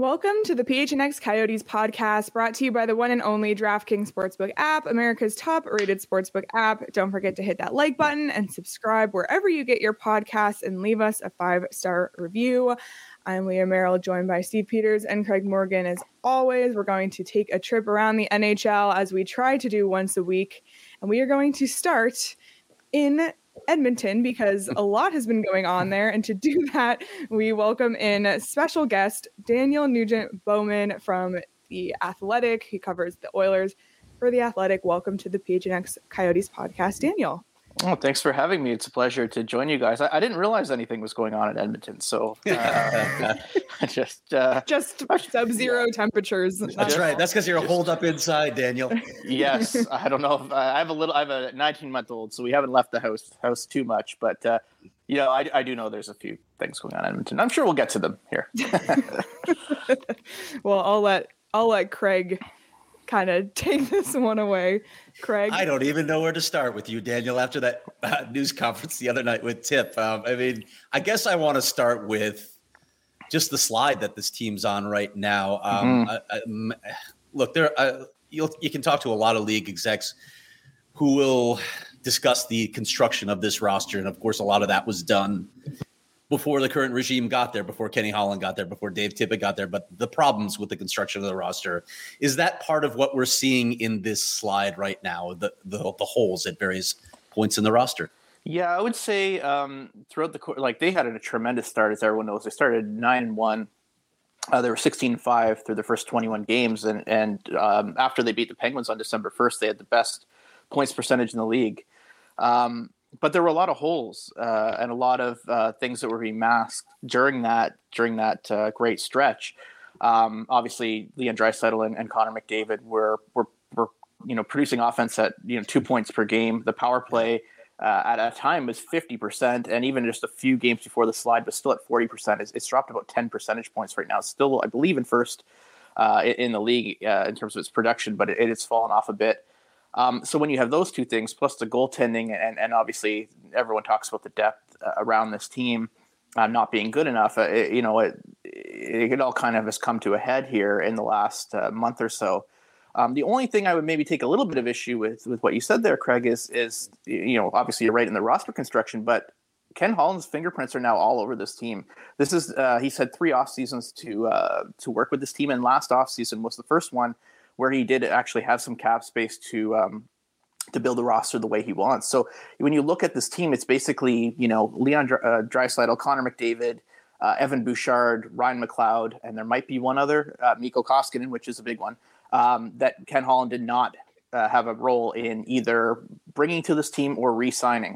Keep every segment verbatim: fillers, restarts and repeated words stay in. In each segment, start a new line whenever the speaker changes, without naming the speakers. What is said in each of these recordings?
Welcome to the P H N X Coyotes podcast, brought to you by the one and only DraftKings Sportsbook app, America's top-rated sportsbook app. Don't forget to hit that like button and subscribe wherever you get your podcasts and leave us a five-star review. I'm Leah Merrill, joined by Steve Peters and Craig Morgan. As always, we're going to take a trip around the N H L as we try to do once a week, and we are going to start in Edmonton because a lot has been going on there. And to do that, we welcome in special guest Daniel Nugent-Bowman from The Athletic. He covers the Oilers for The Athletic. Welcome to the P H N X Coyotes podcast, Daniel.
Oh, thanks for having me. It's a pleasure to join you guys. I, I didn't realize anything was going on in Edmonton, so uh, just uh,
just sub-zero yeah. temperatures.
That's right. That's because you're holed up inside, Daniel.
Yes, I don't know. If, uh, I have a little. I have a nineteen-month-old, so we haven't left the house house too much. But uh, you know, I, I do know there's a few things going on in Edmonton. I'm sure we'll get to them here.
Well, I'll let I'll let Craig kind of take this one away. Craig,
I don't even know where to start with you, Daniel, after that uh, news conference the other night with Tip. Um, I mean, I guess I want to start with just the slide that this team's on right now. Um, mm-hmm. I, I, look, there uh, you'll, you can talk to a lot of league execs who will discuss the construction of this roster. And of course, a lot of that was done before the current regime got there, before Kenny Holland got there, before Dave Tippett got there. But the problems with the construction of the roster, is that part of what we're seeing in this slide right now, the the, the holes at various points in the roster?
Yeah, I would say um, throughout the course, like they had a tremendous start, as everyone knows. They started nine and one. Uh, they were sixteen and five through the first twenty-one games. And, and um, after they beat the Penguins on December first, they had the best points percentage in the league. Um, But there were a lot of holes uh, and a lot of uh, things that were being masked during that during that uh, great stretch. Um, obviously, Leon Draisaitl and, and Connor McDavid were were were you know producing offense at you know two points per game. The power play uh, at a time was fifty percent, and even just a few games before the slide was still at forty percent. It's, it's dropped about ten percentage points right now. It's still, I believe, in first uh, in the league uh, in terms of its production, but it, it has fallen off a bit. Um, so when you have those two things, plus the goaltending, and, and obviously everyone talks about the depth uh, around this team uh, not being good enough, uh, it, you know, it, it, it all kind of has come to a head here in the last uh, month or so. Um, the only thing I would maybe take a little bit of issue with, with what you said there, Craig, is, is, you know, obviously you're right in the roster construction, but Ken Holland's fingerprints are now all over this team. This is, uh, he's had three off seasons to, uh, to work with this team, and last off season was the first one where he did actually have some cap space to um, to build a roster the way he wants. So when you look at this team, it's basically, you know, Leon uh, Draisaitl, Connor McDavid, uh, Evan Bouchard, Ryan McLeod, and there might be one other, uh, Mikko Koskinen, which is a big one, um, that Ken Holland did not uh, have a role in either bringing to this team or re-signing.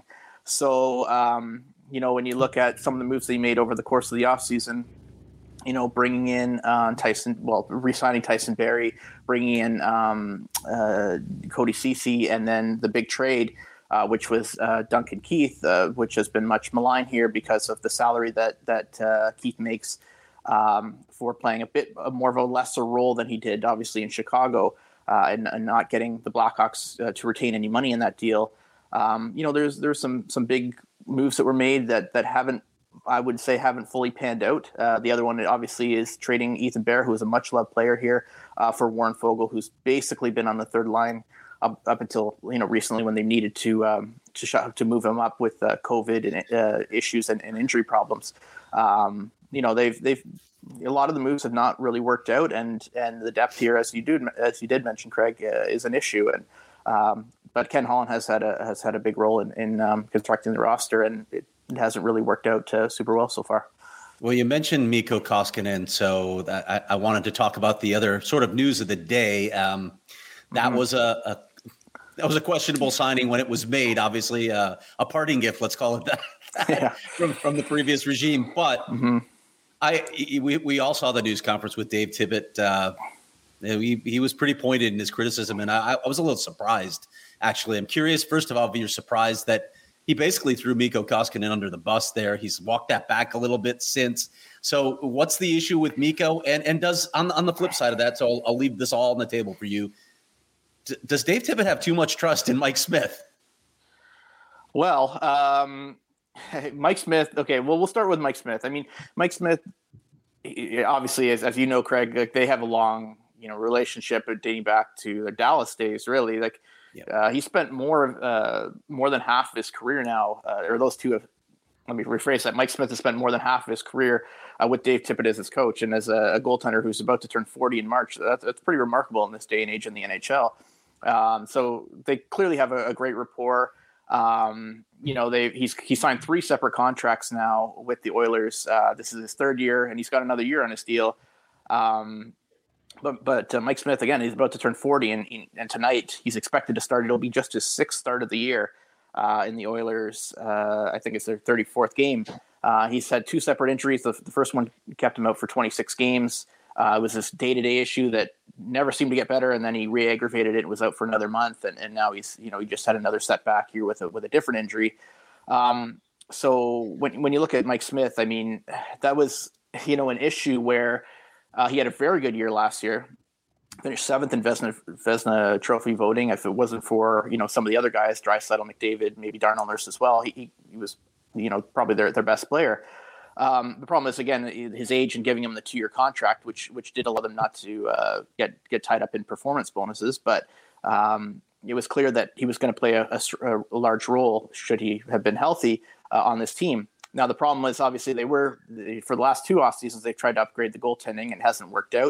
So, um, you know, when you look at some of the moves that he made over the course of the offseason, you know, bringing in uh, Tyson, well, re-signing Tyson Barrie, bringing in um, uh, Cody Ceci, and then the big trade, uh, which was uh, Duncan Keith, uh, which has been much maligned here because of the salary that that uh, Keith makes um, for playing a bit more of a lesser role than he did, obviously, in Chicago, uh, and, and not getting the Blackhawks uh, to retain any money in that deal. Um, you know, there's there's some some big moves that were made that that haven't, I would say, haven't fully panned out. Uh, the other one, obviously, is trading Ethan Bear, who is a much-loved player here, uh, for Warren Foegele, who's basically been on the third line up, up until, you know, recently when they needed to um, to sh- to move him up with uh, COVID and uh, issues and, and injury problems. Um, you know, they've they've a lot of the moves have not really worked out, and and the depth here, as you do as you did mention, Craig, uh, is an issue. And um, but Ken Holland has had a has had a big role in, in um, constructing the roster, and it, It hasn't really worked out uh, super well so far.
Well, you mentioned Mikko Koskinen, so that, I, I wanted to talk about the other sort of news of the day. Um, that mm-hmm. was a, a that was a questionable signing when it was made. Obviously, uh, a parting gift, let's call it that,
yeah.
from from the previous regime. But mm-hmm. I we we all saw the news conference with Dave Tippett. Uh, he he was pretty pointed in his criticism, and I, I was a little surprised. Actually, I'm curious. First of all, if you're surprised that he basically threw Mikko Koskinen under the bus there. He's walked that back a little bit since. So what's the issue with Mikko? And and does on, on the flip side of that, so I'll, I'll leave this all on the table for you. D- does Dave Tippett have too much trust in Mike Smith?
Well, um, Mike Smith. Okay, well, we'll start with Mike Smith. I mean, Mike Smith obviously, as, as you know, Craig, like they have a long, you know, relationship dating back to their Dallas days, really. Like yeah. uh, he spent more, uh, more than half of his career now, uh, or those two have, let me rephrase that. Mike Smith has spent more than half of his career uh, with Dave Tippett as his coach and as a, a goaltender who's about to turn forty in March. That's, that's pretty remarkable in this day and age in the N H L. Um, so they clearly have a, a great rapport. Um, you know, they he's he signed three separate contracts now with the Oilers. Uh, this is his third year, and he's got another year on his deal. Um, but but uh, Mike Smith, again, he's about to turn forty, and and tonight he's expected to start. It'll be just his sixth start of the year. Uh, in the Oilers, uh, I think it's their thirty-fourth game. Uh, he's had two separate injuries. The, the first one kept him out for twenty-six games. Uh, it was this day-to-day issue that never seemed to get better, and then he re-aggravated it. Was out for another month, and, and now he's you know he just had another setback here with a with a different injury. Um, so when when you look at Mike Smith, I mean that was you know an issue where uh, he had a very good year last year. Finished seventh in Vezina, Vezina Trophy voting. If it wasn't for you know some of the other guys, Draisaitl, McDavid, maybe Darnell Nurse as well, he, he, he was you know probably their their best player. Um, the problem is again his age and giving him the two year contract, which which did allow them not to uh, get get tied up in performance bonuses. But um, it was clear that he was going to play a, a, a large role should he have been healthy uh, on this team. Now the problem was obviously they were for the last two off seasons they've tried to upgrade the goaltending and it hasn't worked out.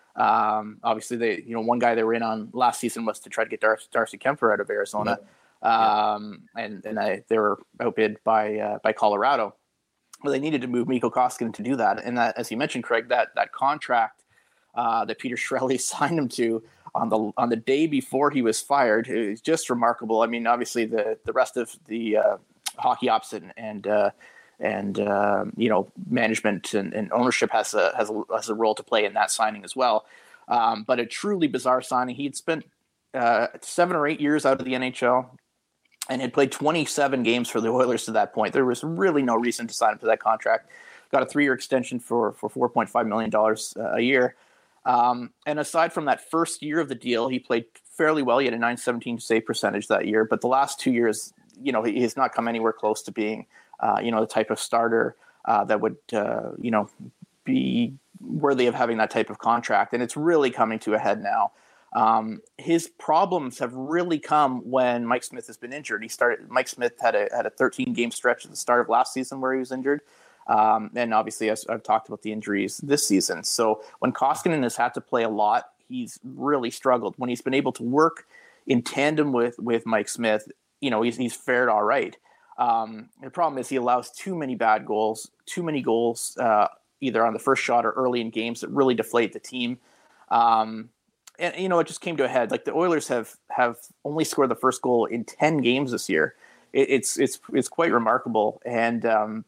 Um, obviously, they, you know, one guy they were in on last season was to try to get Dar- Darcy Kemper out of Arizona, yeah. um, and and I, they were outbid by uh, by Colorado. Well, they needed to move Mikko Koskinen to do that, and that, as you mentioned, Craig, that that contract uh, that Peter Chiarelli signed him to on the on the day before he was fired is just remarkable. I mean, obviously, the the rest of the uh, hockey ops and and uh, and uh, you know management and, and ownership has a has a has a role to play in that signing as well. Um, but a truly bizarre signing. He'd spent uh, seven or eight years out of the N H L and had played twenty-seven games for the Oilers to that point. There was really no reason to sign him to that contract. Got a three-year extension for for four point five million dollars uh, a year. Um, and aside from that first year of the deal, he played fairly well. He had a nine seventeen save percentage that year. But the last two years, you know, he has not come anywhere close to being Uh, you know, the type of starter uh, that would, uh, you know, be worthy of having that type of contract. And it's really coming to a head now. Um, his problems have really come when Mike Smith has been injured. He started, Mike Smith had a, had a thirteen game stretch at the start of last season where he was injured. Um, and obviously, as I've talked about the injuries this season. So when Koskinen has had to play a lot, he's really struggled. When he's been able to work in tandem with, with Mike Smith, you know, he's, he's fared all right. Um, the problem is he allows too many bad goals, too many goals, uh, either on the first shot or early in games that really deflate the team. Um, and, you know, it just came to a head. Like the Oilers have, have only scored the first goal in ten games this year. It, it's, it's, it's quite remarkable. And um,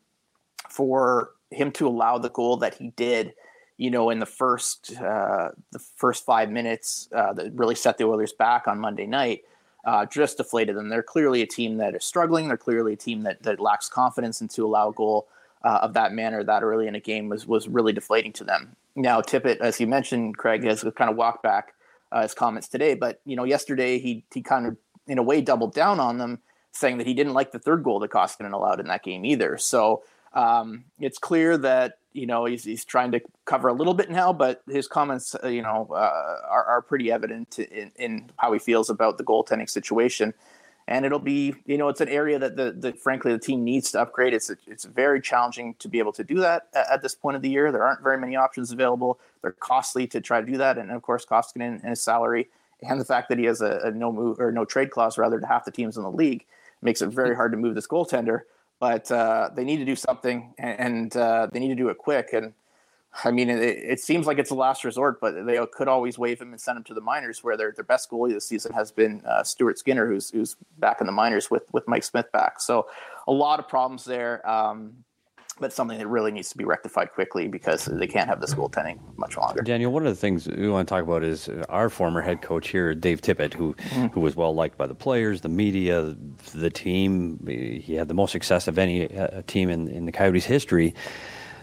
for him to allow the goal that he did, you know, in the first, uh, the first five minutes uh, that really set the Oilers back on Monday night, Uh, just deflated them. They're clearly a team that is struggling. They're clearly a team that, that lacks confidence, and to allow a goal uh, of that manner that early in a game was was really deflating to them. Now, Tippett, as you mentioned, Craig, has kind of walked back uh, his comments today, but you know, yesterday he he kind of in a way doubled down on them, saying that he didn't like the third goal that Koskinen allowed in that game either. So um, it's clear that you know he's he's trying to cover a little bit now, but his comments, uh, you know, uh, are, are pretty evident in, in how he feels about the goaltending situation. And it'll be, you know, it's an area that the, the frankly the team needs to upgrade. It's it's very challenging to be able to do that at, at this point of the year. There aren't very many options available. They're costly to try to do that, and of course, Koskinen and his salary and the fact that he has a, a no move or no trade clause rather to half the teams in the league makes it very hard to move this goaltender. But uh, they need to do something, and, and uh, they need to do it quick. And I mean, it, it seems like it's a last resort, but they could always waive him and send him to the minors, where their their best goalie this season has been uh, Stuart Skinner, who's who's back in the minors with with Mike Smith back. So a lot of problems there, um, but something that really needs to be rectified quickly because they can't have this goaltending much longer.
Daniel, one of the things we want to talk about is our former head coach here, Dave Tippett, who mm-hmm. who was well liked by the players, the media, the team. He had the most success of any uh, team in, in the Coyotes' history.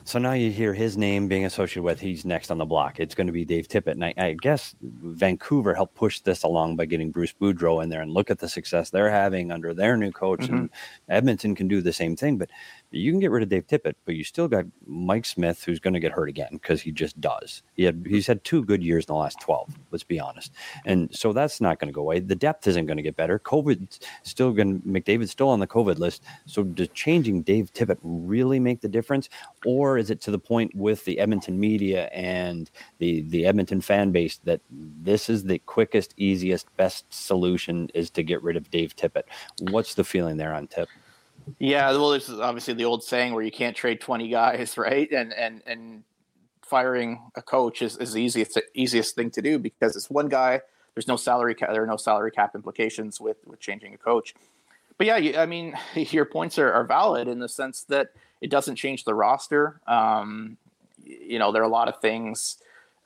So now you hear his name being associated with he's next on the block. It's going to be Dave Tippett. And I, I guess Vancouver helped push this along by getting Bruce Boudreau in there, and look at the success they're having under their new coach. Mm-hmm. And Edmonton can do the same thing. But you can get rid of Dave Tippett, but you still got Mike Smith, who's going to get hurt again because he just does. He had he's had two good years in the last twelve. Let's be honest. And so that's not going to go away. The depth isn't going to get better. COVID's still going. McDavid's still on the COVID list. So does changing Dave Tippett really make the difference, or is it to the point with the Edmonton media and the the Edmonton fan base that this is the quickest, easiest, best solution is to get rid of Dave Tippett? What's the feeling there on Tip?
Yeah, well, this is obviously the old saying where you can't trade twenty guys, right? And and and firing a coach is, is the easiest easiest thing to do because it's one guy. There's no salary cap. There are no salary cap implications with, with changing a coach. But yeah, you, I mean, your points are, are valid in the sense that it doesn't change the roster. Um, you know, there are a lot of things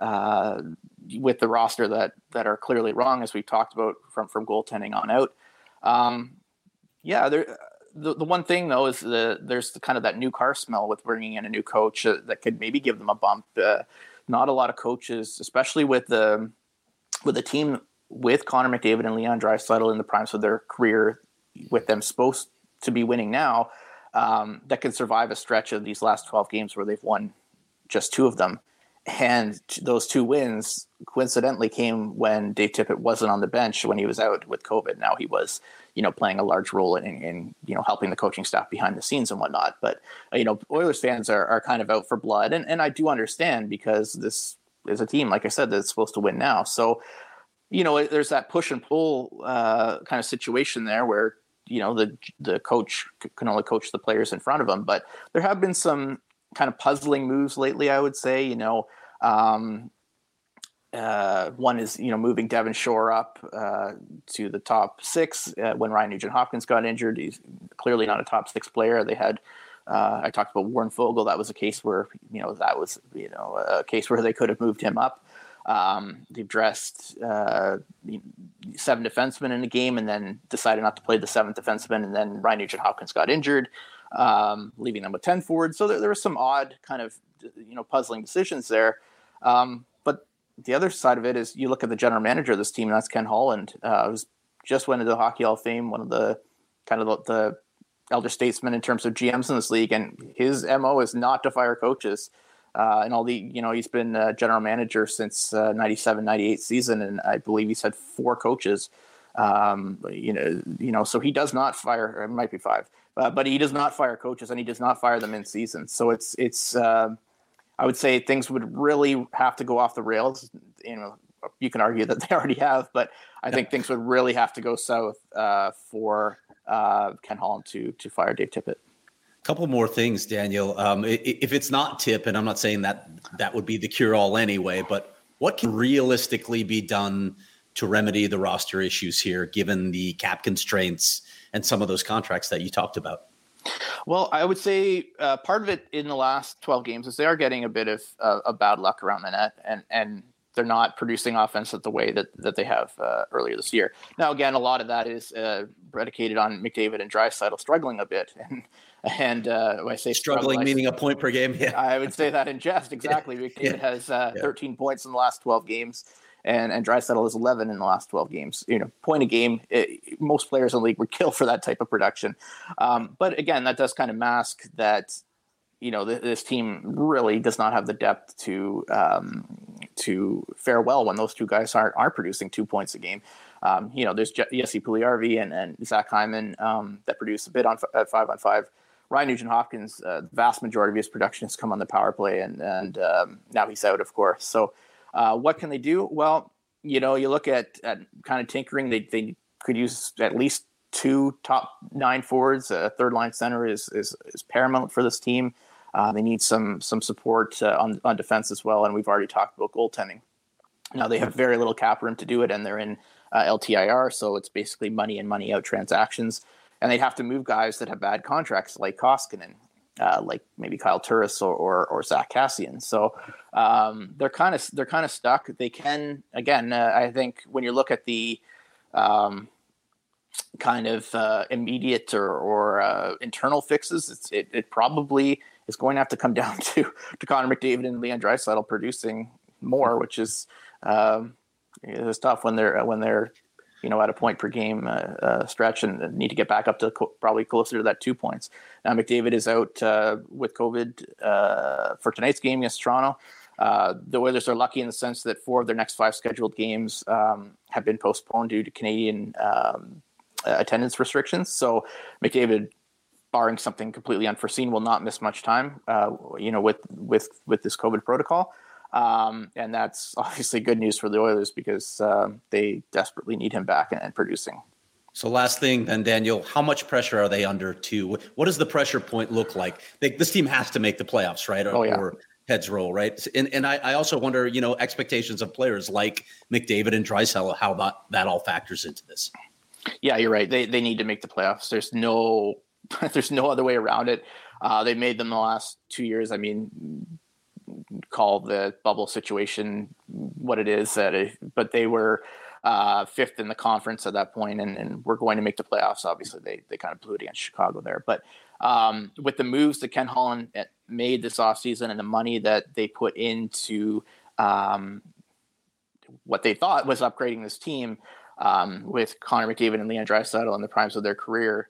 uh, with the roster that that are clearly wrong, as we've talked about from from goaltending on out. Um, yeah, there. The, the one thing, though, is the, there's the kind of that new car smell with bringing in a new coach uh, that could maybe give them a bump. Uh, not a lot of coaches, especially with the with a team with Connor McDavid and Leon Draisaitl in the primes of their career, with them supposed to be winning now, um, that can survive a stretch of these last twelve games where they've won just two of them. And those two wins coincidentally came when Dave Tippett wasn't on the bench when he was out with COVID. Now he was, you know, playing a large role in, in, you know, helping the coaching staff behind the scenes and whatnot. But, uh, you know, Oilers fans are, are kind of out for blood. And, and I do understand because this is a team, like I said, that's supposed to win now. So, you know, there's that push and pull uh, kind of situation there where, you know, the the coach can only coach the players in front of him. But there have been some kind of puzzling moves lately, I would say. You know, um, uh, one is, you know, moving Devon Shore up uh, to the top six uh, when Ryan Nugent-Hopkins got injured. He's clearly not a top six player. They had, uh, I talked about Warren Fogle. That was a case where, you know, that was, you know, a case where they could have moved him up. Um, they've dressed uh, seven defensemen in a game and then decided not to play the seventh defenseman. And then Ryan Nugent-Hopkins got injured, um, leaving them with ten forwards. So there, there were some odd kind of, you know, puzzling decisions there. Um, but the other side of it is you look at the general manager of this team, and that's Ken Holland, uh, who's just went into the Hockey Hall of Fame, one of the kind of the, the elder statesmen in terms of G Ms in this league. And his M O is not to fire coaches. Uh, and all the, you know, he's been uh, general manager since uh, ninety-seven ninety-eight season. And I believe he's had four coaches, um, you know, you know, so he does not fire, or it might be five, uh, but he does not fire coaches and he does not fire them in season. So it's, it's, uh, I would say things would really have to go off the rails. You know, you can argue that they already have, but I think things would really have to go south uh, for uh, Ken Holland to, to fire Dave Tippett.
Couple more things, Daniel. Um, if it's not Tip, and I'm not saying that that would be the cure-all anyway, but what can realistically be done to remedy the roster issues here, given the cap constraints and some of those contracts that you talked about?
Well, I would say uh, part of it in the last twelve games is they are getting a bit of uh, a bad luck around the net, and and they're not producing offense at the way that, that they have uh, earlier this year. Now, again, a lot of that is uh, predicated on McDavid and Draisaitl struggling a bit, and And uh, when I say
struggling, struggle, meaning I, a point per game. Yeah,
I would say that in jest. Exactly. Yeah. McDavid yeah. has uh, yeah. thirteen points in the last twelve games, and and Draisaitl has eleven in the last twelve games. You know, point a game. It, most players in the league would kill for that type of production. Um, but again, that does kind of mask that, you know, th- this team really does not have the depth to um, to fare well when those two guys aren't are producing two points a game. Um, you know, there's Jesse Puljujarvi and, and Zach Hyman um, that produce a bit on f- at five on five. Ryan Nugent-Hopkins, uh, the vast majority of his production has come on the power play, and and um, now he's out, of course. So uh, what can they do? Well, you know, you look at, at kind of tinkering. They they could use at least two top nine forwards. A third line center is is, is paramount for this team. Uh, they need some some support uh, on on defense as well, and we've already talked about goaltending. Now they have very little cap room to do it, and they're in uh, L T I R, so it's basically money in, money out transactions. And they'd have to move guys that have bad contracts, like Koskinen, uh, like maybe Kyle Turris or, or or Zach Cassian. So um, they're kind of they're kind of stuck. They can again. Uh, I think when you look at the um, kind of uh, immediate or, or uh, internal fixes, it's, it, it probably is going to have to come down to to Connor McDavid and Leon Draisaitl producing more, which is um, it's tough when they're when they're you know at a point per game uh, uh, stretch and need to get back up to co- probably closer to that two points. Now McDavid is out uh, with COVID uh, for tonight's game against Toronto. Uh, the Oilers are lucky in the sense that four of their next five scheduled games um, have been postponed due to Canadian um, attendance restrictions. So McDavid, barring something completely unforeseen, will not miss much time, uh, you know, with, with, with this COVID protocol. Um, and that's obviously good news for the Oilers because uh, they desperately need him back and, and producing.
So last thing then, Daniel, how much pressure are they under to, what does the pressure point look like? They, this team has to make the playoffs, right? Or,
oh, yeah.
or heads roll, right? And and I, I also wonder, you know, expectations of players like McDavid and Draisaitl, how that, that all factors into this.
Yeah, you're right. They they need to make the playoffs. There's no there's no other way around it. Uh, they made them the last two years. I mean, call the bubble situation what it is, that it, but they were uh, fifth in the conference at that point, and, and we're going to make the playoffs. Obviously, they they kind of blew it against Chicago there. But um, with the moves that Ken Holland made this offseason and the money that they put into um, what they thought was upgrading this team, Um, with Connor McDavid and Leon Draisaitl in the primes of their career,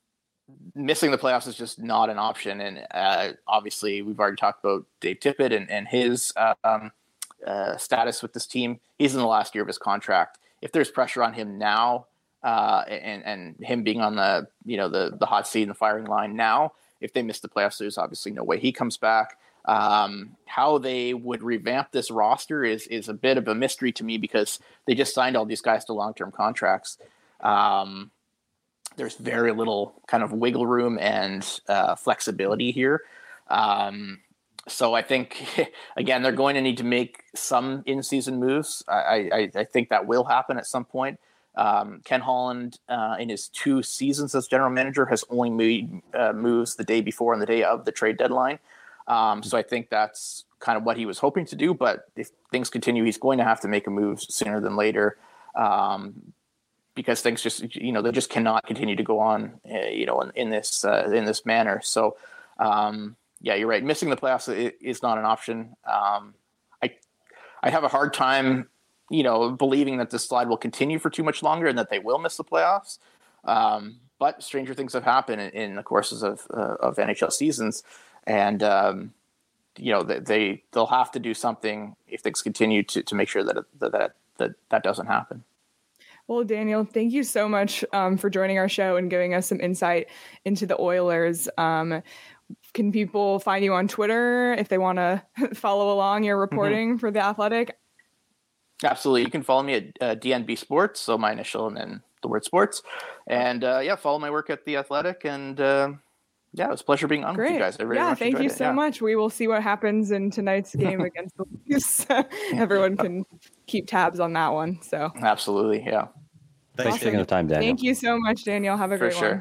missing the playoffs is just not an option. And uh, obviously, we've already talked about Dave Tippett and, and his um, uh, status with this team. He's in the last year of his contract. If there's pressure on him now, uh, and and him being on the you know the the hot seat in the firing line now, if they miss the playoffs, there's obviously no way he comes back. Um, how they would revamp this roster is is a bit of a mystery to me because they just signed all these guys to long-term contracts. Um, there's very little kind of wiggle room and uh, flexibility here. Um, so I think, again, they're going to need to make some in-season moves. I, I, I think that will happen at some point. Um, Ken Holland, uh, in his two seasons as general manager, has only made uh, moves the day before and the day of the trade deadline. Um, so I think that's kind of what he was hoping to do. But if things continue, he's going to have to make a move sooner than later, um, because things just, you know, they just cannot continue to go on, uh, you know, in, in this uh, in this manner. So, um, yeah, you're right. Missing the playoffs is not an option. Um, I I have a hard time, you know, believing that this slide will continue for too much longer and that they will miss the playoffs. Um, but stranger things have happened in, in the courses of uh, of N H L seasons. And, um, you know, they, they, they'll have to do something if things continue to, to make sure that, that, that, that, that doesn't happen.
Well, Daniel, thank you so much um, for joining our show and giving us some insight into the Oilers. Um, can people find you on Twitter if they want to follow along your reporting mm-hmm. for The Athletic?
Absolutely. You can follow me at uh, D N B Sports, so my initial and then the word sports. And, uh, yeah, follow my work at The Athletic and, uh, yeah, it was a pleasure being on
Great.
with you guys. I really
yeah, thank you
it.
so
yeah.
much. We will see what happens in tonight's game against the Leafs. Everyone can keep tabs on that one. So
absolutely, yeah.
Thanks awesome. for taking the time, Daniel.
Thank you so much, Daniel. Have a
For
great
sure.
one.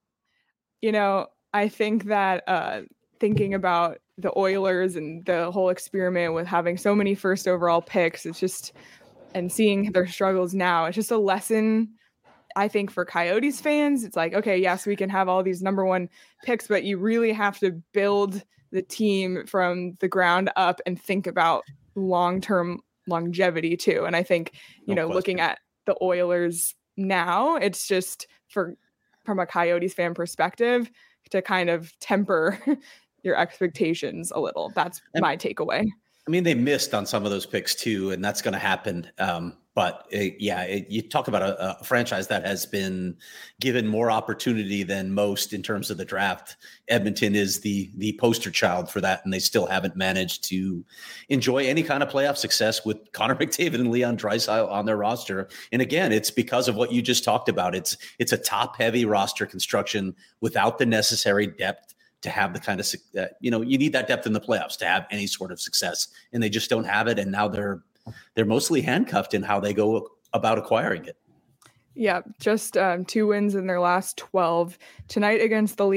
You know, I think that uh, thinking about the Oilers and the whole experiment with having so many first overall picks, it's just, and seeing their struggles now, it's just a lesson. I think for Coyotes fans, it's like, okay, yes, we can have all these number one picks, but you really have to build the team from the ground up and think about long-term longevity too. And I think, you no know, question. Looking at the Oilers now, it's just for, from a Coyotes fan perspective, to kind of temper your expectations a little. That's and, my takeaway.
I mean, they missed on some of those picks too, and that's going to happen. Um, But it, yeah, it, you talk about a, a franchise that has been given more opportunity than most in terms of the draft. Edmonton is the the poster child for that, and they still haven't managed to enjoy any kind of playoff success with Connor McDavid and Leon Draisaitl on their roster. And again, it's because of what you just talked about. It's it's a top-heavy roster construction without the necessary depth to have the kind of uh, you know you need that depth in the playoffs to have any sort of success, and they just don't have it. And now they're They're mostly handcuffed in how they go about acquiring it.
Yeah, just um, two wins in their last twelve. Tonight against the Le-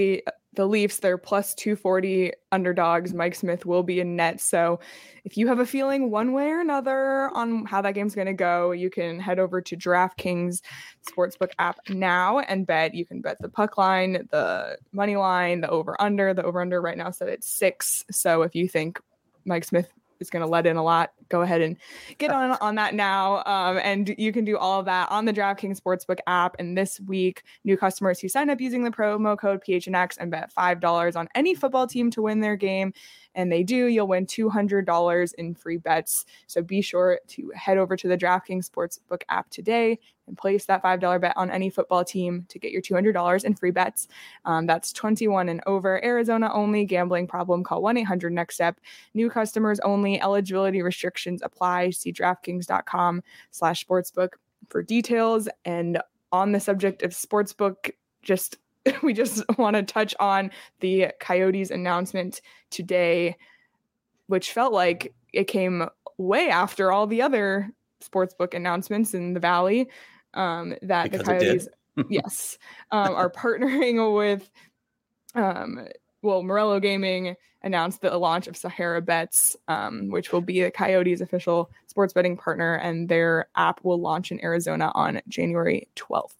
the Leafs, they're plus two forty underdogs. Mike Smith will be in net. So if you have a feeling one way or another on how that game's going to go, you can head over to DraftKings Sportsbook app now and bet. You can bet the puck line, the money line, the over-under. The over-under right now set at six. So if you think Mike Smith is going to let in a lot, go ahead and get on on that now. Um, and you can do all of that on the DraftKings Sportsbook app. And this week, new customers who sign up using the promo code P H N X and bet five dollars on any football team to win their game, and they do, you'll win two hundred dollars in free bets. So be sure to head over to the DraftKings Sportsbook app today and place that five dollars bet on any football team to get your two hundred dollars in free bets. Um, that's twenty-one and over. Arizona only. Gambling problem? Call one eight hundred next step. New customers only. Eligibility restrictions apply. See DraftKings.com slash sportsbook for details. And on the subject of sportsbook, just we just want to touch on the Coyotes announcement today, which felt like it came way after all the other sportsbook announcements in the Valley. Um, that
because
the Coyotes, yes, um, are partnering with, um, well, Morello Gaming announced the launch of Sahara Bets, um, which will be the Coyotes' official sports betting partner, and their app will launch in Arizona on January twelfth.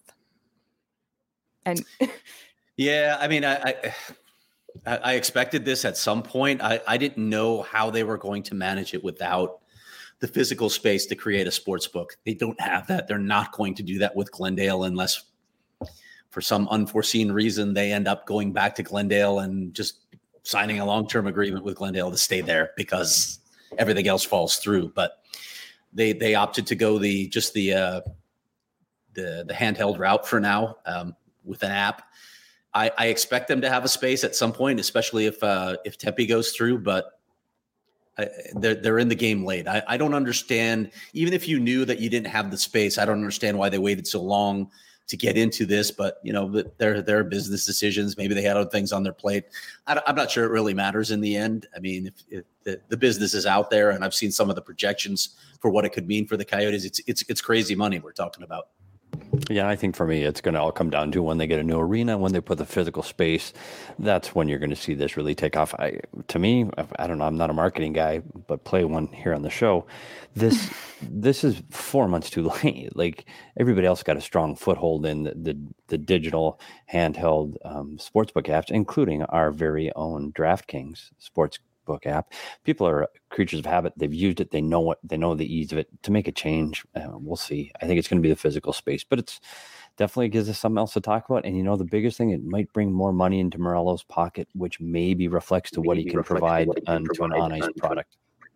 And
yeah, I mean, I, I I expected this at some point. I, I didn't know how they were going to manage it without the physical space to create a sports book. They don't have that. They're not going to do that with Glendale unless for some unforeseen reason they end up going back to Glendale and just signing a long-term agreement with Glendale to stay there because everything else falls through. But they they opted to go the just the uh, the the handheld route for now um, with an app. I, I expect them to have a space at some point, especially if uh, if Tempe goes through. But I, they're they're in the game late. I, I don't understand. Even if you knew that you didn't have the space, I don't understand why they waited so long to get into this. But you know, they're they're business decisions. Maybe they had other things on their plate. I, I'm not sure it really matters in the end. I mean, if, if the, the business is out there, and I've seen some of the projections for what it could mean for the Coyotes, it's it's it's crazy money we're talking about.
Yeah, I think for me, it's going to all come down to when they get a new arena, when they put the physical space. That's when you're going to see this really take off. I, to me, I don't know. I'm not a marketing guy, but play one here on the show. This this is four months too late. Like everybody else got a strong foothold in the the, the digital handheld um, sportsbook apps, including our very own DraftKings sports book app. People are creatures of habit. They've used it. They know what they know the ease of it. To make a change, uh, we'll see. I think it's going to be the physical space, but it's definitely gives us something else to talk about. And you know, the biggest thing, it might bring more money into Morello's pocket, which maybe reflects to maybe what he can provide onto an on ice product.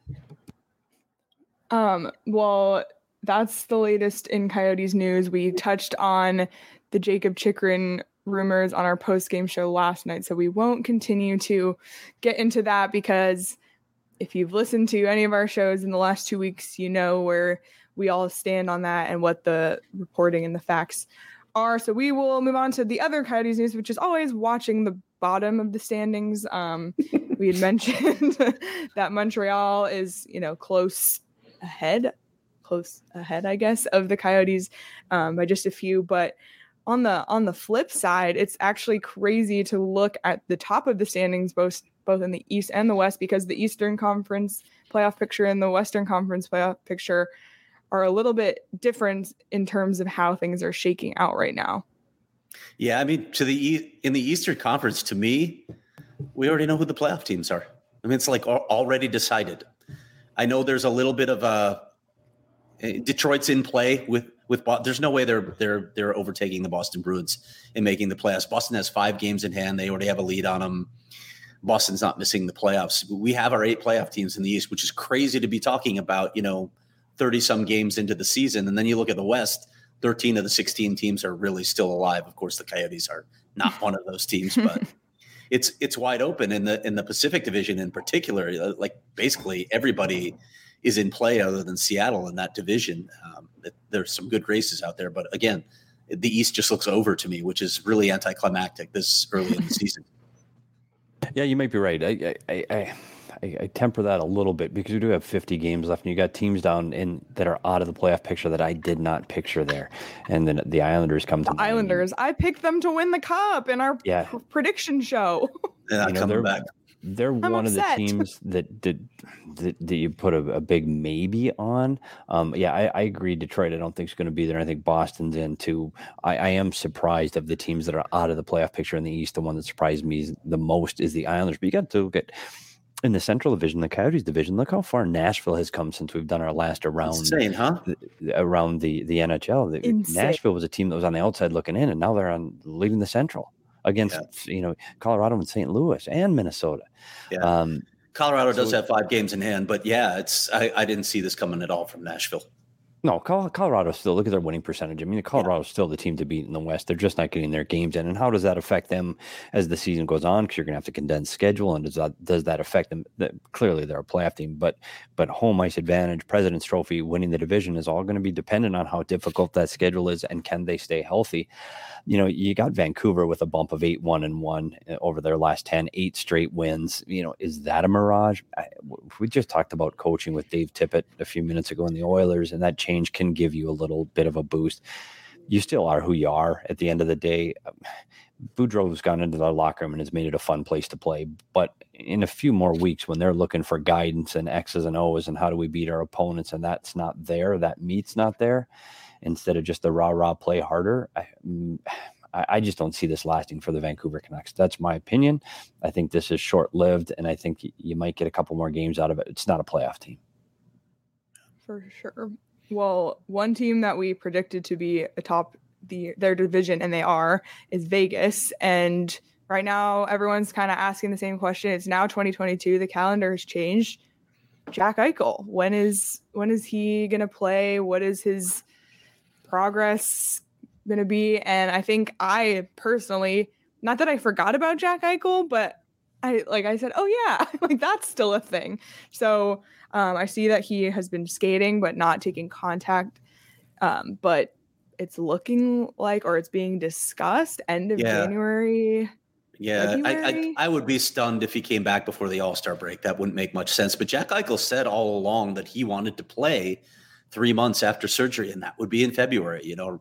Um. Well, that's the latest in Coyotes news. We touched on the Jacob Chychrun rumors on our post-game show last night, so we won't continue to get into that, because if you've listened to any of our shows in the last two weeks, you know where we all stand on that and what the reporting and the facts are. So we will move on to the other Coyotes news, which is always watching the bottom of the standings. Um, we had mentioned that Montreal is, you know, close ahead, close ahead, I guess, of the Coyotes um, by just a few, but On the on the flip side, it's actually crazy to look at the top of the standings, both both in the East and the West, because the Eastern Conference playoff picture and the Western Conference playoff picture are a little bit different in terms of how things are shaking out right now.
Yeah, I mean, to the in the Eastern Conference, to me, we already know who the playoff teams are. I mean, it's like already decided. I know there's a little bit of a Detroit's in play with. With there's no way they're they're they're overtaking the Boston Bruins and making the playoffs. Boston has five games in hand. They already have a lead on them. Boston's not missing the playoffs. We have our eight playoff teams in the East, which is crazy to be talking about, you know, thirty some games into the season. And then you look at the West, thirteen of the sixteen teams are really still alive. Of course, the Coyotes are not one of those teams, but it's it's wide open in the in the Pacific Division in particular. Like basically everybody is in play other than Seattle in that division. Um, there's some good races out there, but again, the East just looks over to me, which is really anticlimactic this early in the season.
Yeah, you might be right. I, I, I, I, I temper that a little bit because we do have fifty games left, and you got teams down in that are out of the playoff picture that I did not picture there. And then the Islanders come to
the mind. Islanders. I picked them to win the cup in our
yeah.
p- prediction show.
They're not
you know,
coming
they're,
back.
They're
I'm
one
upset.
of the teams that did that, that you put a, a big maybe on. Um, yeah, I, I agree. Detroit, I don't think is going to be there. I think Boston's in too. I, I am surprised of the teams that are out of the playoff picture in the East. The one that surprised me the most is the Islanders. But you got to look at in the Central Division, the Coyotes division. Look how far Nashville has come since we've done our last round.
Insane, huh?
The, around the the N H L, the, Nashville was a team that was on the outside looking in, and now they're on leading the Central. Against yeah. you know Colorado and Saint Louis and Minnesota.
Yeah.
Um,
Colorado does so, have five games in hand, but yeah, it's I, I didn't see this coming at all from Nashville.
No, Colorado still, look at their winning percentage. I mean, Colorado's yeah. still the team to beat in the West. They're just not getting their games in. And how does that affect them as the season goes on? Because you're going to have to condense schedule. And does that does that affect them? Clearly, they're a playoff team, but but home ice advantage, President's Trophy, winning the division is all going to be dependent on how difficult that schedule is and can they stay healthy. You know, you got Vancouver with a bump of eight, one and one over their last ten, eight straight wins. You know, is that a mirage? I, we just talked about coaching with Dave Tippett a few minutes ago in the Oilers, and that change can give you a little bit of a boost. You still are who you are at the end of the day. Boudreau's gone into the locker room and has made it a fun place to play. But in a few more weeks, when they're looking for guidance and X's and O's and how do we beat our opponents, and that's not there, that meat's not there, instead of just the rah rah play harder, I, I just don't see this lasting for the Vancouver Canucks. That's my opinion. I think this is short lived, and I think you might get a couple more games out of it. It's not a playoff team.
For sure. Well, one team that we predicted to be atop the their division, and they are, is Vegas. And right now, everyone's kind of asking the same question. It's now twenty twenty-two. The calendar has changed. Jack Eichel, when is when is he going to play? What is his progress going to be? And I think I personally, not that I forgot about Jack Eichel, but I like I said, oh yeah, like that's still a thing. So um, I see that he has been skating but not taking contact. Um, but it's looking like, or it's being discussed end of
yeah.
January.
Yeah, I, I I would be stunned if he came back before the All-Star break. That wouldn't make much sense. But Jack Eichel said all along that he wanted to play three months after surgery, and that would be in February, you know,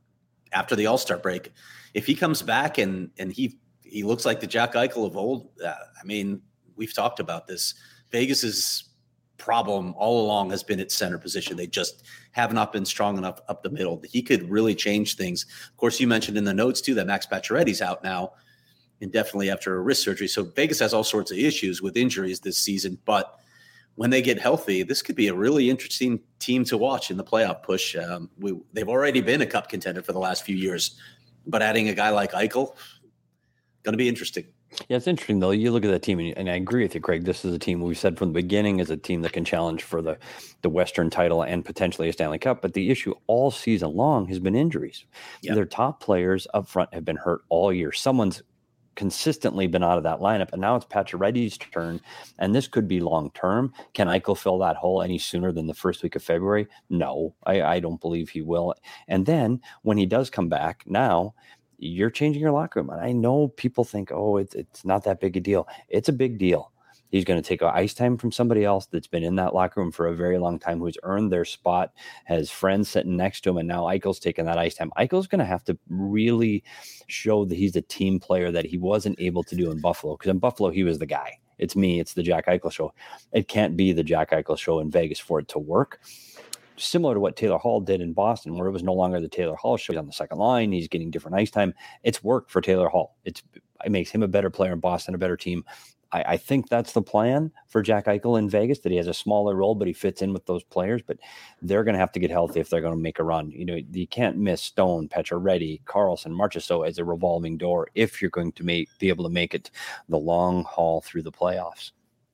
after the All-Star break. If he comes back and and he he looks like the Jack Eichel of old, uh, I mean, we've talked about this. Vegas's problem all along has been its center position. They just have not been strong enough up the middle. He could really change things. Of course, you mentioned in the notes, too, that Max Pacioretty's out now, indefinitely after a wrist surgery. So Vegas has all sorts of issues with injuries this season. But when they get healthy, this could be a really interesting team to watch in the playoff push. Um, we, they've already been a cup contender for the last few years. But adding a guy like Eichel, going to be interesting.
Yeah, it's interesting, though. You look at that team, and, and I agree with you, Craig. This is a team we said from the beginning is a team that can challenge for the, the Western title and potentially a Stanley Cup. But the issue all season long has been injuries. Yep. Their top players up front have been hurt all year. Someone's consistently been out of that lineup, and now it's Pacioretty's turn, and this could be long term. Can Eichel fill that hole any sooner than the first week of February? No, I, I don't believe he will. And then when he does come back, now you're changing your locker room. And I know people think, oh, it's it's not that big a deal. It's a big deal. He's going to take ice time from somebody else that's been in that locker room for a very long time, who's earned their spot, has friends sitting next to him, and now Eichel's taking that ice time. Eichel's going to have to really show that he's a team player that he wasn't able to do in Buffalo, because in Buffalo, he was the guy. It's me. It's the Jack Eichel show. It can't be the Jack Eichel show in Vegas for it to work. Similar to what Taylor Hall did in Boston, where it was no longer the Taylor Hall show. He's on the second line. He's getting different ice time. It's worked for Taylor Hall. It's It makes him a better player in Boston, a better team. I, I think that's the plan for Jack Eichel in Vegas, that he has a smaller role, but he fits in with those players. But they're going to have to get healthy if they're going to make a run. You know, you can't miss Stone, Pacioretty, Carlson, Marchessault as a revolving door if you're going to make, be able to make it the long haul through the playoffs.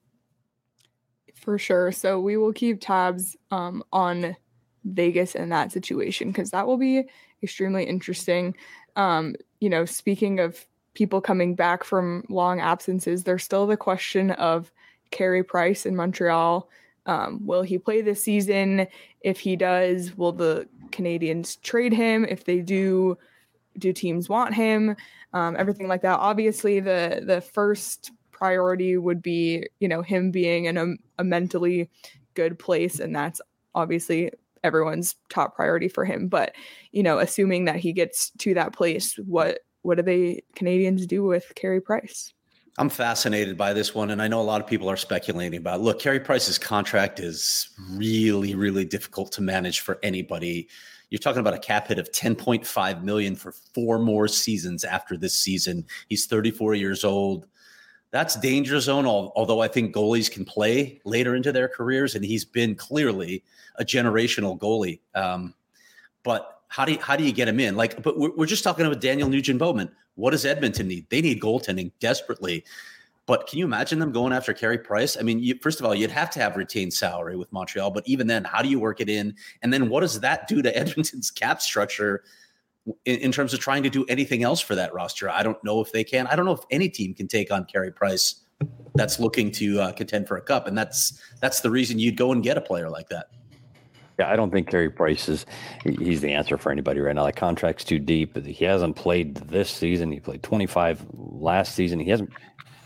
For sure. So we will keep tabs um, on Vegas in that situation, because that will be extremely interesting. Um, you know, speaking of people coming back from long absences, there's still the question of Carey Price in Montreal. Um, will he play this season? If he does, will the Canadiens trade him? If they do, do teams want him? Um, everything like that. Obviously, the the first priority would be, you know, him being in a, a mentally good place. And that's obviously everyone's top priority for him. But, you know, assuming that he gets to that place, what, what do they Canadians do with Carey Price?
I'm fascinated by this one, and I know a lot of people are speculating about it. Look, Carey Price's contract is really, really difficult to manage for anybody. You're talking about a cap hit of ten point five million dollars for four more seasons after this season. He's thirty-four years old. That's danger zone, although I think goalies can play later into their careers, and he's been clearly a generational goalie. Um, but how do you, how do you get him in? Like, but we're, we're just talking about Daniel Nugent-Bowman. What does Edmonton need? They need goaltending desperately. But can you imagine them going after Carey Price? I mean, you, first of all, you'd have to have retained salary with Montreal. But even then, how do you work it in? And then what does that do to Edmonton's cap structure in, in terms of trying to do anything else for that roster? I don't know if they can. I don't know if any team can take on Carey Price that's looking to uh, contend for a cup. And that's that's the reason you'd go and get a player like that.
Yeah, I don't think Carey Price is he's the answer for anybody right now. That contract's too deep. He hasn't played this season. He played twenty-five last season. He hasn't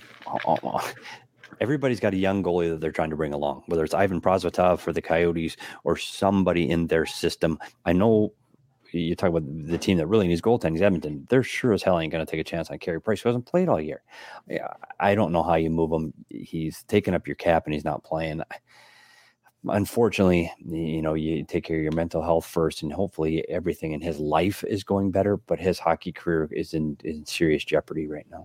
everybody's got a young goalie that they're trying to bring along, whether it's Ivan Prosvetov for the Coyotes or somebody in their system. I know you talk about the team that really needs goaltending, Edmonton. They're sure as hell ain't going to take a chance on Carey Price, who hasn't played all year. I don't know how you move him. He's taking up your cap and he's not playing. Unfortunately, you know, you take care of your mental health first, and hopefully everything in his life is going better, but his hockey career is in, in serious jeopardy right now.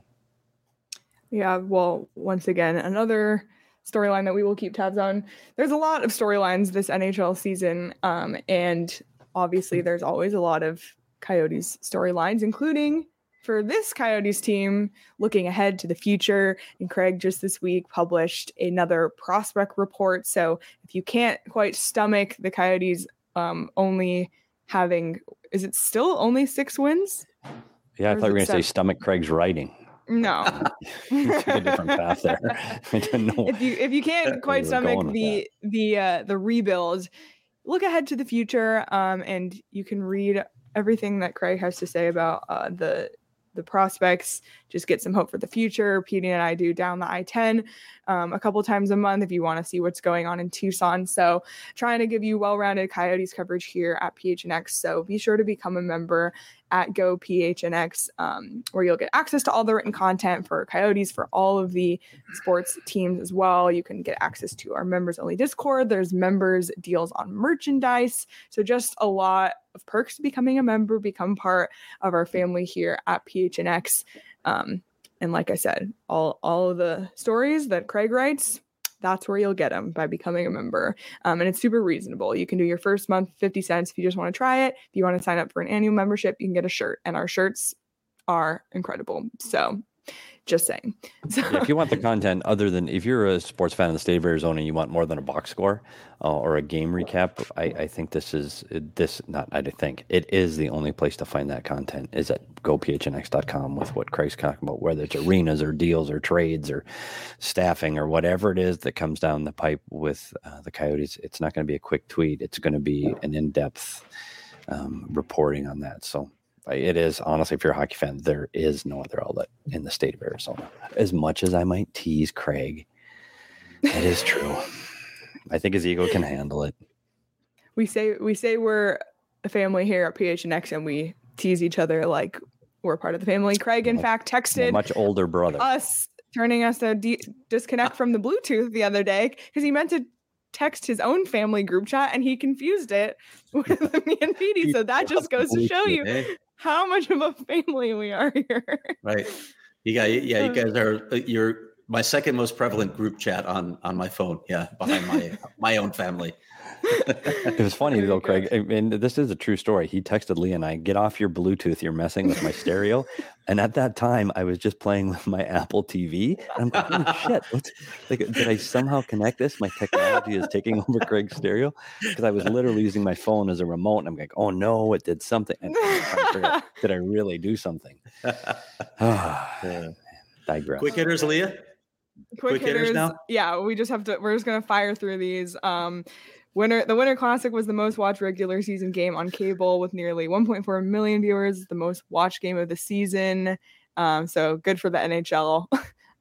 Yeah, well, once again, another storyline that we will keep tabs on. There's a lot of storylines this N H L season, um, and obviously there's always a lot of Coyotes storylines, including for this Coyotes team looking ahead to the future. And Craig just this week published another prospect report. So if you can't quite stomach the Coyotes um, only having, is it still only six wins?
Yeah, I thought you were going to say stomach Craig's writing.
No.
It's a different path there. I didn't know.
If you if you can't quite stomach the the uh, the rebuild, look ahead to the future, um, and you can read everything that Craig has to say about uh, the the prospects. Just get some hope for the future. Petey and I do Down the I ten um, a couple times a month if you want to see what's going on in Tucson. So trying to give you well-rounded Coyotes coverage here at P H N X. So be sure to become a member at Go P H N X, um, where you'll get access to all the written content for Coyotes, for all of the sports teams as well. You can get access to our members only Discord. There's members deals on merchandise. So just a lot of perks to becoming a member, become part of our family here at P H N X. Um, and like I said, all, all of the stories that Craig writes, that's where you'll get them, by becoming a member. Um, and it's super reasonable. You can do your first month, fifty cents if you just want to try it. If you want to sign up for an annual membership, you can get a shirt, and our shirts are incredible. So just saying. So,
yeah, if you want the content other than, if you're a sports fan in the state of Arizona and you want more than a box score uh, or a game recap, I, I think this is this not I think it is the only place to find that content is at go p h n x dot com with what Craig's talking about, whether it's arenas or deals or trades or staffing or whatever it is that comes down the pipe with uh, the Coyotes. It's not going to be a quick tweet. It's going to be an in-depth um, reporting on that. So it is, honestly, if you're a hockey fan, there is no other outlet in the state of Arizona. As much as I might tease Craig, it is true. I think his ego can handle it.
We say we say we're a family here at P H N X, and we tease each other like we're part of the family. Craig, in
much,
fact, texted
much older brother
us, turning us to de- disconnect from the Bluetooth the other day because he meant to text his own family group chat and he confused it with me and Petey. So that just goes to show you how much of a family we are here. Right.
You got, yeah, you guys are, you're my second most prevalent group chat on, on my phone. Yeah. Behind my, my own family.
It was funny though, Craig. I mean, this is a true story. He texted Lee and I, "Get off your Bluetooth. You're messing with my stereo." And at that time, I was just playing with my Apple T V. And I'm like, "Holy shit! What's, like, did I somehow connect this? My technology is taking over Craig's stereo." Because I was literally using my phone as a remote. And I'm like, "Oh no, it did something." And I'm trying to figure out, did I really do something?
yeah.
Digress.
Quick hitters, Leah.
Quick, Quick hitters, hitters now. Yeah, we just have to. We're just gonna fire through these. Um, Winter, the Winter Classic was the most watched regular season game on cable with nearly one point four million viewers, the most watched game of the season. Um, so good for the N H L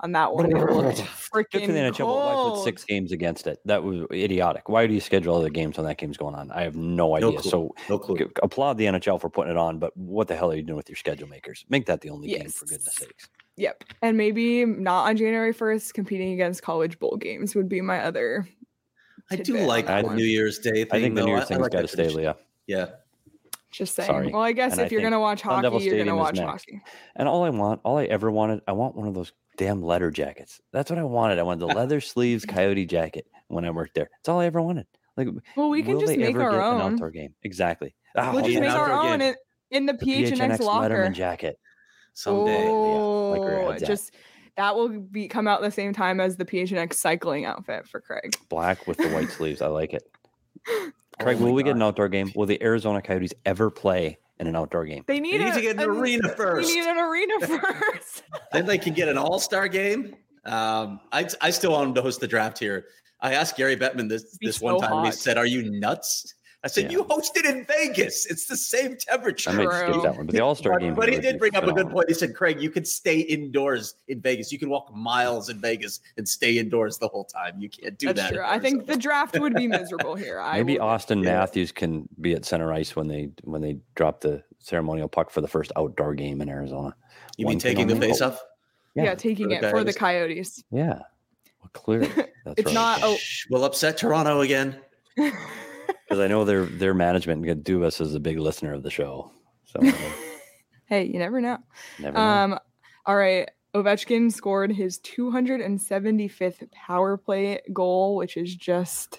on that one. It looked
Good
freaking
for the N H L, but why put
cold.
six games against it? That was idiotic. Why do you schedule other games when that game's going on? I have no idea.
clue.
So
No clue.
g- applaud the N H L for putting it on, but what the hell are you doing with your schedule makers? Make that the only game,
Yes.
for goodness sakes.
Yep. And maybe not on January first, competing against college bowl games would be my other.
I do
tidbit
like
on that
the
one.
New Year's Day thing.
I think the
though.
New
I-
Year's
I
thing's
like
got to
that
stay,
tradition.
Leah.
Yeah.
Just saying.
Sorry.
Well, I guess
And
if
I
you're
think
going to watch
Sun Devil
hockey, you're going to
Stadium is
watch
next.
hockey.
And all I want, all I ever wanted, I want one of those damn letter jackets. That's what I wanted. I wanted the leather sleeves Coyote jacket when I worked there. That's all I ever wanted. Like,
Well, we can
will
just
they
make
ever
our
get an
own.
outdoor game? Exactly.
We'll
Oh,
just
yeah,
make
an
our
outdoor
own
game.
in, in the
the
P H N X locker.
Letterman jacket.
Someday.
Oh,
Leah, like where your head's at.
just that will be come out the same time as the P H N X cycling outfit for Craig.
Black with the white sleeves. I like it. Craig,
Oh my
will we get
God.
an outdoor game? Will the Arizona Coyotes ever play in an outdoor game?
They need,
They need
a,
to get an
a-
arena first.
We need an arena first.
Then they can get an all-star game. Um, I I still want them to host the draft here. I asked Gary Bettman this
Be
this
so
one time, and he
hot.
said, "Are you nuts?" I said,
Yeah.
"You hosted in Vegas. It's the same temperature."
I might
True.
skip that one, but the All Star
But,
game.
but he
would
did
be
bring up a good
phenomenal.
point. He said, "Craig, you can stay indoors in Vegas. You can walk miles in Vegas and stay indoors the whole time. You can't do
That's
that."
true.
in
I think the
Arizona."
draft would be miserable here. I
Maybe
will-
Austin
yeah.
Matthews can be at center ice when they when they drop the ceremonial puck for the first outdoor game in Arizona.
You
One
mean
thing
taking the
only.
face-off?
yeah,
Yeah,
taking
for the
it for the
Coyotes.
Coyotes.
yeah. Well, clearly, that's
It's
right.
not. Oh,
Shh, we'll upset Toronto again.
Because I know their their management could do us as a big listener of the show. So
hey, you never know.
never know.
Um, all right. Ovechkin scored his two hundred seventy-fifth power play goal, which is just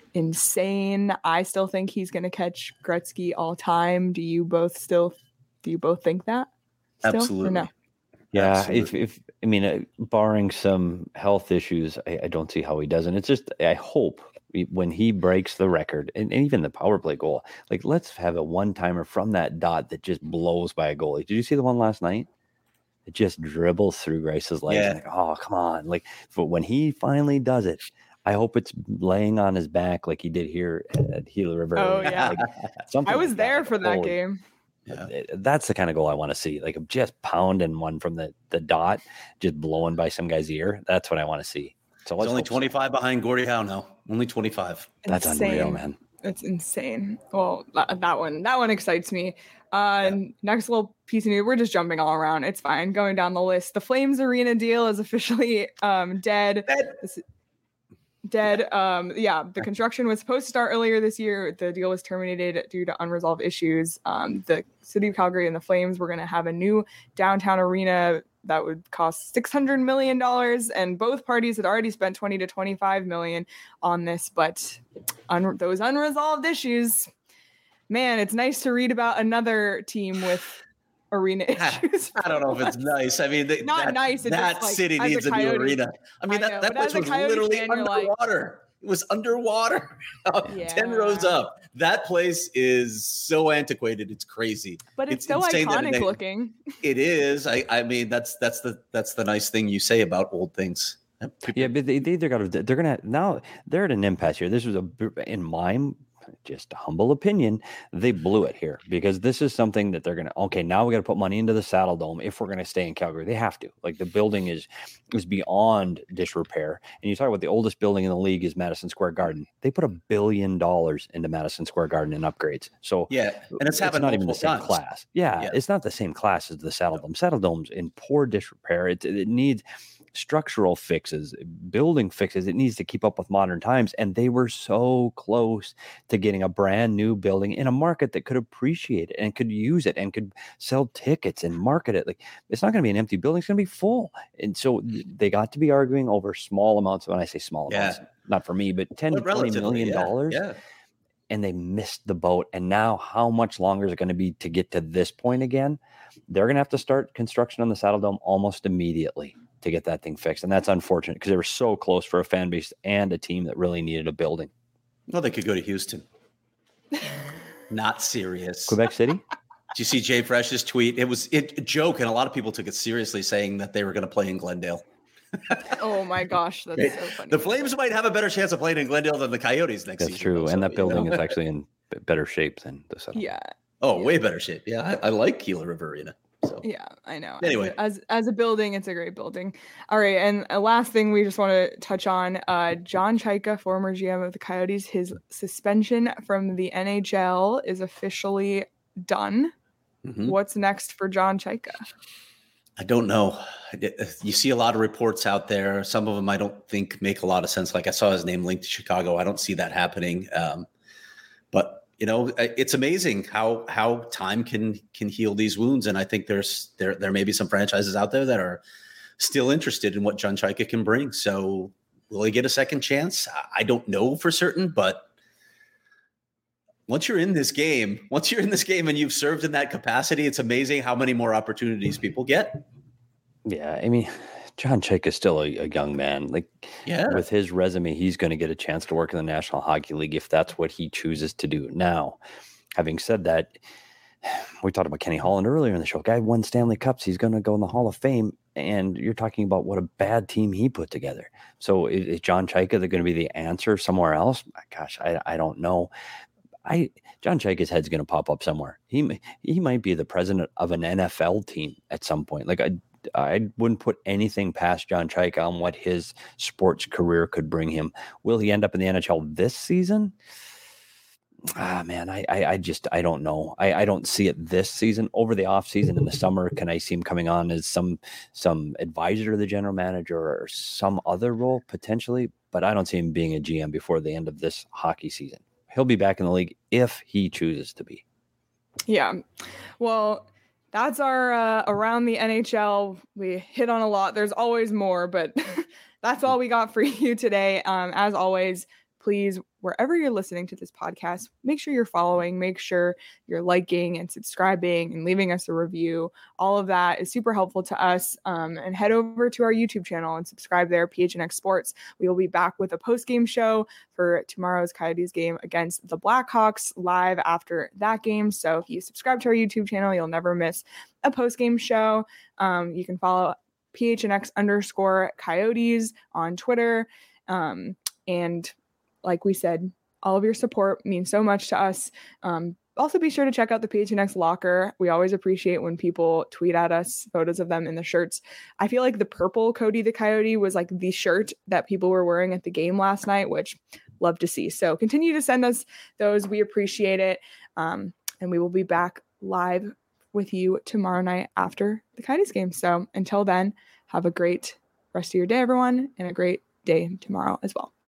insane. I still think he's going to catch Gretzky all time. Do you both still? Do you both think that? Still, or
Absolutely.
no?
Yeah, if,
Absolutely.
if I mean, uh, barring some health issues, I, I don't see how he doesn't. It's just I hope we- when he breaks the record and, and even the power play goal, like let's have a one timer from that dot that just blows by a goalie. Did you see the one last night? It just dribbles through Grace's legs.
Yeah.
Like, oh, come on! Like, but when he finally does it, I hope it's laying on his back like he did here at Gila River.
Oh, yeah.
Like, something
I was
like
there
Like,
for that
holy
game.
Yeah.
it- That's the kind of goal I want to see. Like just pounding one from the, the dot, just blowing by some guy's ear. That's what I want to see. So
He's
let's
only
hope so.
twenty-five behind Gordie Howe now. Only twenty-five.
That's
Insane.
unreal, man.
It's insane. Well, that, that one, that one excites me. Uh, Next little piece of news. We're just jumping all around. It's fine. Going down the list. The Flames Arena deal is officially um, dead. This- dead. Um, yeah, the construction was supposed to start earlier this year. The deal was terminated due to unresolved issues. Um, the city of Calgary and the Flames were going to have a new downtown arena that would cost six hundred million dollars, and both parties had already spent twenty to twenty-five million on this, but un- those unresolved issues, man, it's nice to read about another team with arena issues.
I don't know if it's nice. I mean, they,
Not
that,
nice, it's
that
just like,
city
as a
needs a, new
Coyote-
arena. I mean,
I
that,
know,
that
but as
place
a
was
Coyote
literally
fan, you're like-
underwater. It was underwater. ten
Yeah.
rows up. That place is so antiquated. It's crazy.
But it's,
It's
so
insane that
iconic
they-
looking.
It is. I, I mean, that's that's the that's the nice thing you say about old things. People-
Yeah, but they, they either got to, they're going to, now they're at an impasse here. This was a, in my just humble opinion, they blew it here because this is something that they're going to, okay, now we got to put money into the Saddle Dome if we're going to stay in Calgary. They have to. Like the building is, is beyond disrepair. And you talk about the oldest building in the league is Madison Square Garden. They put a billion dollars into Madison Square Garden in upgrades. So
yeah, and it's happened
not even the
multiple
same
times.
class. Yeah,
Yeah.
it's not the same class as the Saddle Dome. Saddle Dome's in poor disrepair. It, it needs structural fixes, building fixes. It needs to keep up with modern times. And they were so close to getting a brand new building in a market that could appreciate it and could use it and could sell tickets and market it. Like it's not going to be an empty building. It's going to be full. And so they got to be arguing over small amounts. When I say small
Yeah.
amounts, not for me, but ten
But
to twenty
relatively,
million
yeah,
dollars.
Yeah.
And they missed the boat. And now how much longer is it going to be to get to this point again? They're going to have to start construction on the Saddle Dome almost immediately to get that thing fixed. And that's unfortunate because they were so close for a fan base and a team that really needed a building.
Well, they could go to Houston. Not serious.
Quebec City?
Did you see Jay Fresh's tweet? It was it, a joke, and a lot of people took it seriously, saying that they were going to play in Glendale.
Oh my gosh, that's
Right.
so funny.
The Flames might have a better chance of playing in Glendale than the Coyotes next
That's
season.
true.
though,
And
so,
that
you
building
know.
is actually in b- better shape than the Saddle Dome.
yeah.
Oh, way better shape. Yeah, I, I like Gila River Arena. So
yeah, I know.
Anyway,
as a, as, as a building, it's a great building. All right, and a last thing we just want to touch on: uh, John Chayka, former G M of the Coyotes, his suspension from the N H L is officially done. Mm-hmm. What's next for John Chayka?
I don't know. You see a lot of reports out there. Some of them I don't think make a lot of sense. Like I saw his name linked to Chicago. I don't see that happening. Um, but you know, it's amazing how how time can can heal these wounds. And I think there's there there may be some franchises out there that are still interested in what John Chayka can bring. So will he get a second chance? I don't know for certain, but once you're in this game, once you're in this game and you've served in that capacity, it's amazing how many more opportunities people get.
Yeah, I mean, John Chayka is still a, a young man. Like,
yeah,
with his resume, he's going to get a chance to work in the National Hockey League if that's what he chooses to do. Now, having said that, we talked about Kenny Holland earlier in the show. Guy won Stanley Cups. He's going to go in the Hall of Fame. And you're talking about what a bad team he put together. So is, is John Chayka going to be the answer somewhere else? Gosh, I, I don't know. I John Chayka's head's going to pop up somewhere. He he might be the president of an N F L team at some point. Like I I wouldn't put anything past John Chayka on what his sports career could bring him. Will he end up in the N H L this season? Ah, man, I I, I just I don't know. I, I don't see it this season. Over the off season in the summer, can I see him coming on as some some advisor to the general manager or some other role potentially? But I don't see him being a G M before the end of this hockey season. He'll be back in the league if he chooses to be.
Yeah. Well, that's our uh, around the N H L. We hit on a lot. There's always more, but that's all we got for you today. Um, as always, please, wherever you're listening to this podcast, make sure you're following, make sure you're liking and subscribing and leaving us a review. All of that is super helpful to us. Um, and head over to our YouTube channel and subscribe there, P H N X Sports. We will be back with a post-game show for tomorrow's Coyotes game against the Blackhawks live after that game. So if you subscribe to our YouTube channel, you'll never miss a post-game show. Um, you can follow P H N X underscore Coyotes on Twitter. Um, and like we said, all of your support means so much to us. Um, also, be sure to check out the P H N X locker. We always appreciate when people tweet at us photos of them in the shirts. I feel like the purple Cody the Coyote was like the shirt that people were wearing at the game last night, which love to see. So continue to send us those. We appreciate it. Um, and we will be back live with you tomorrow night after the Coyotes game. So until then, have a great rest of your day, everyone, and a great day tomorrow as well.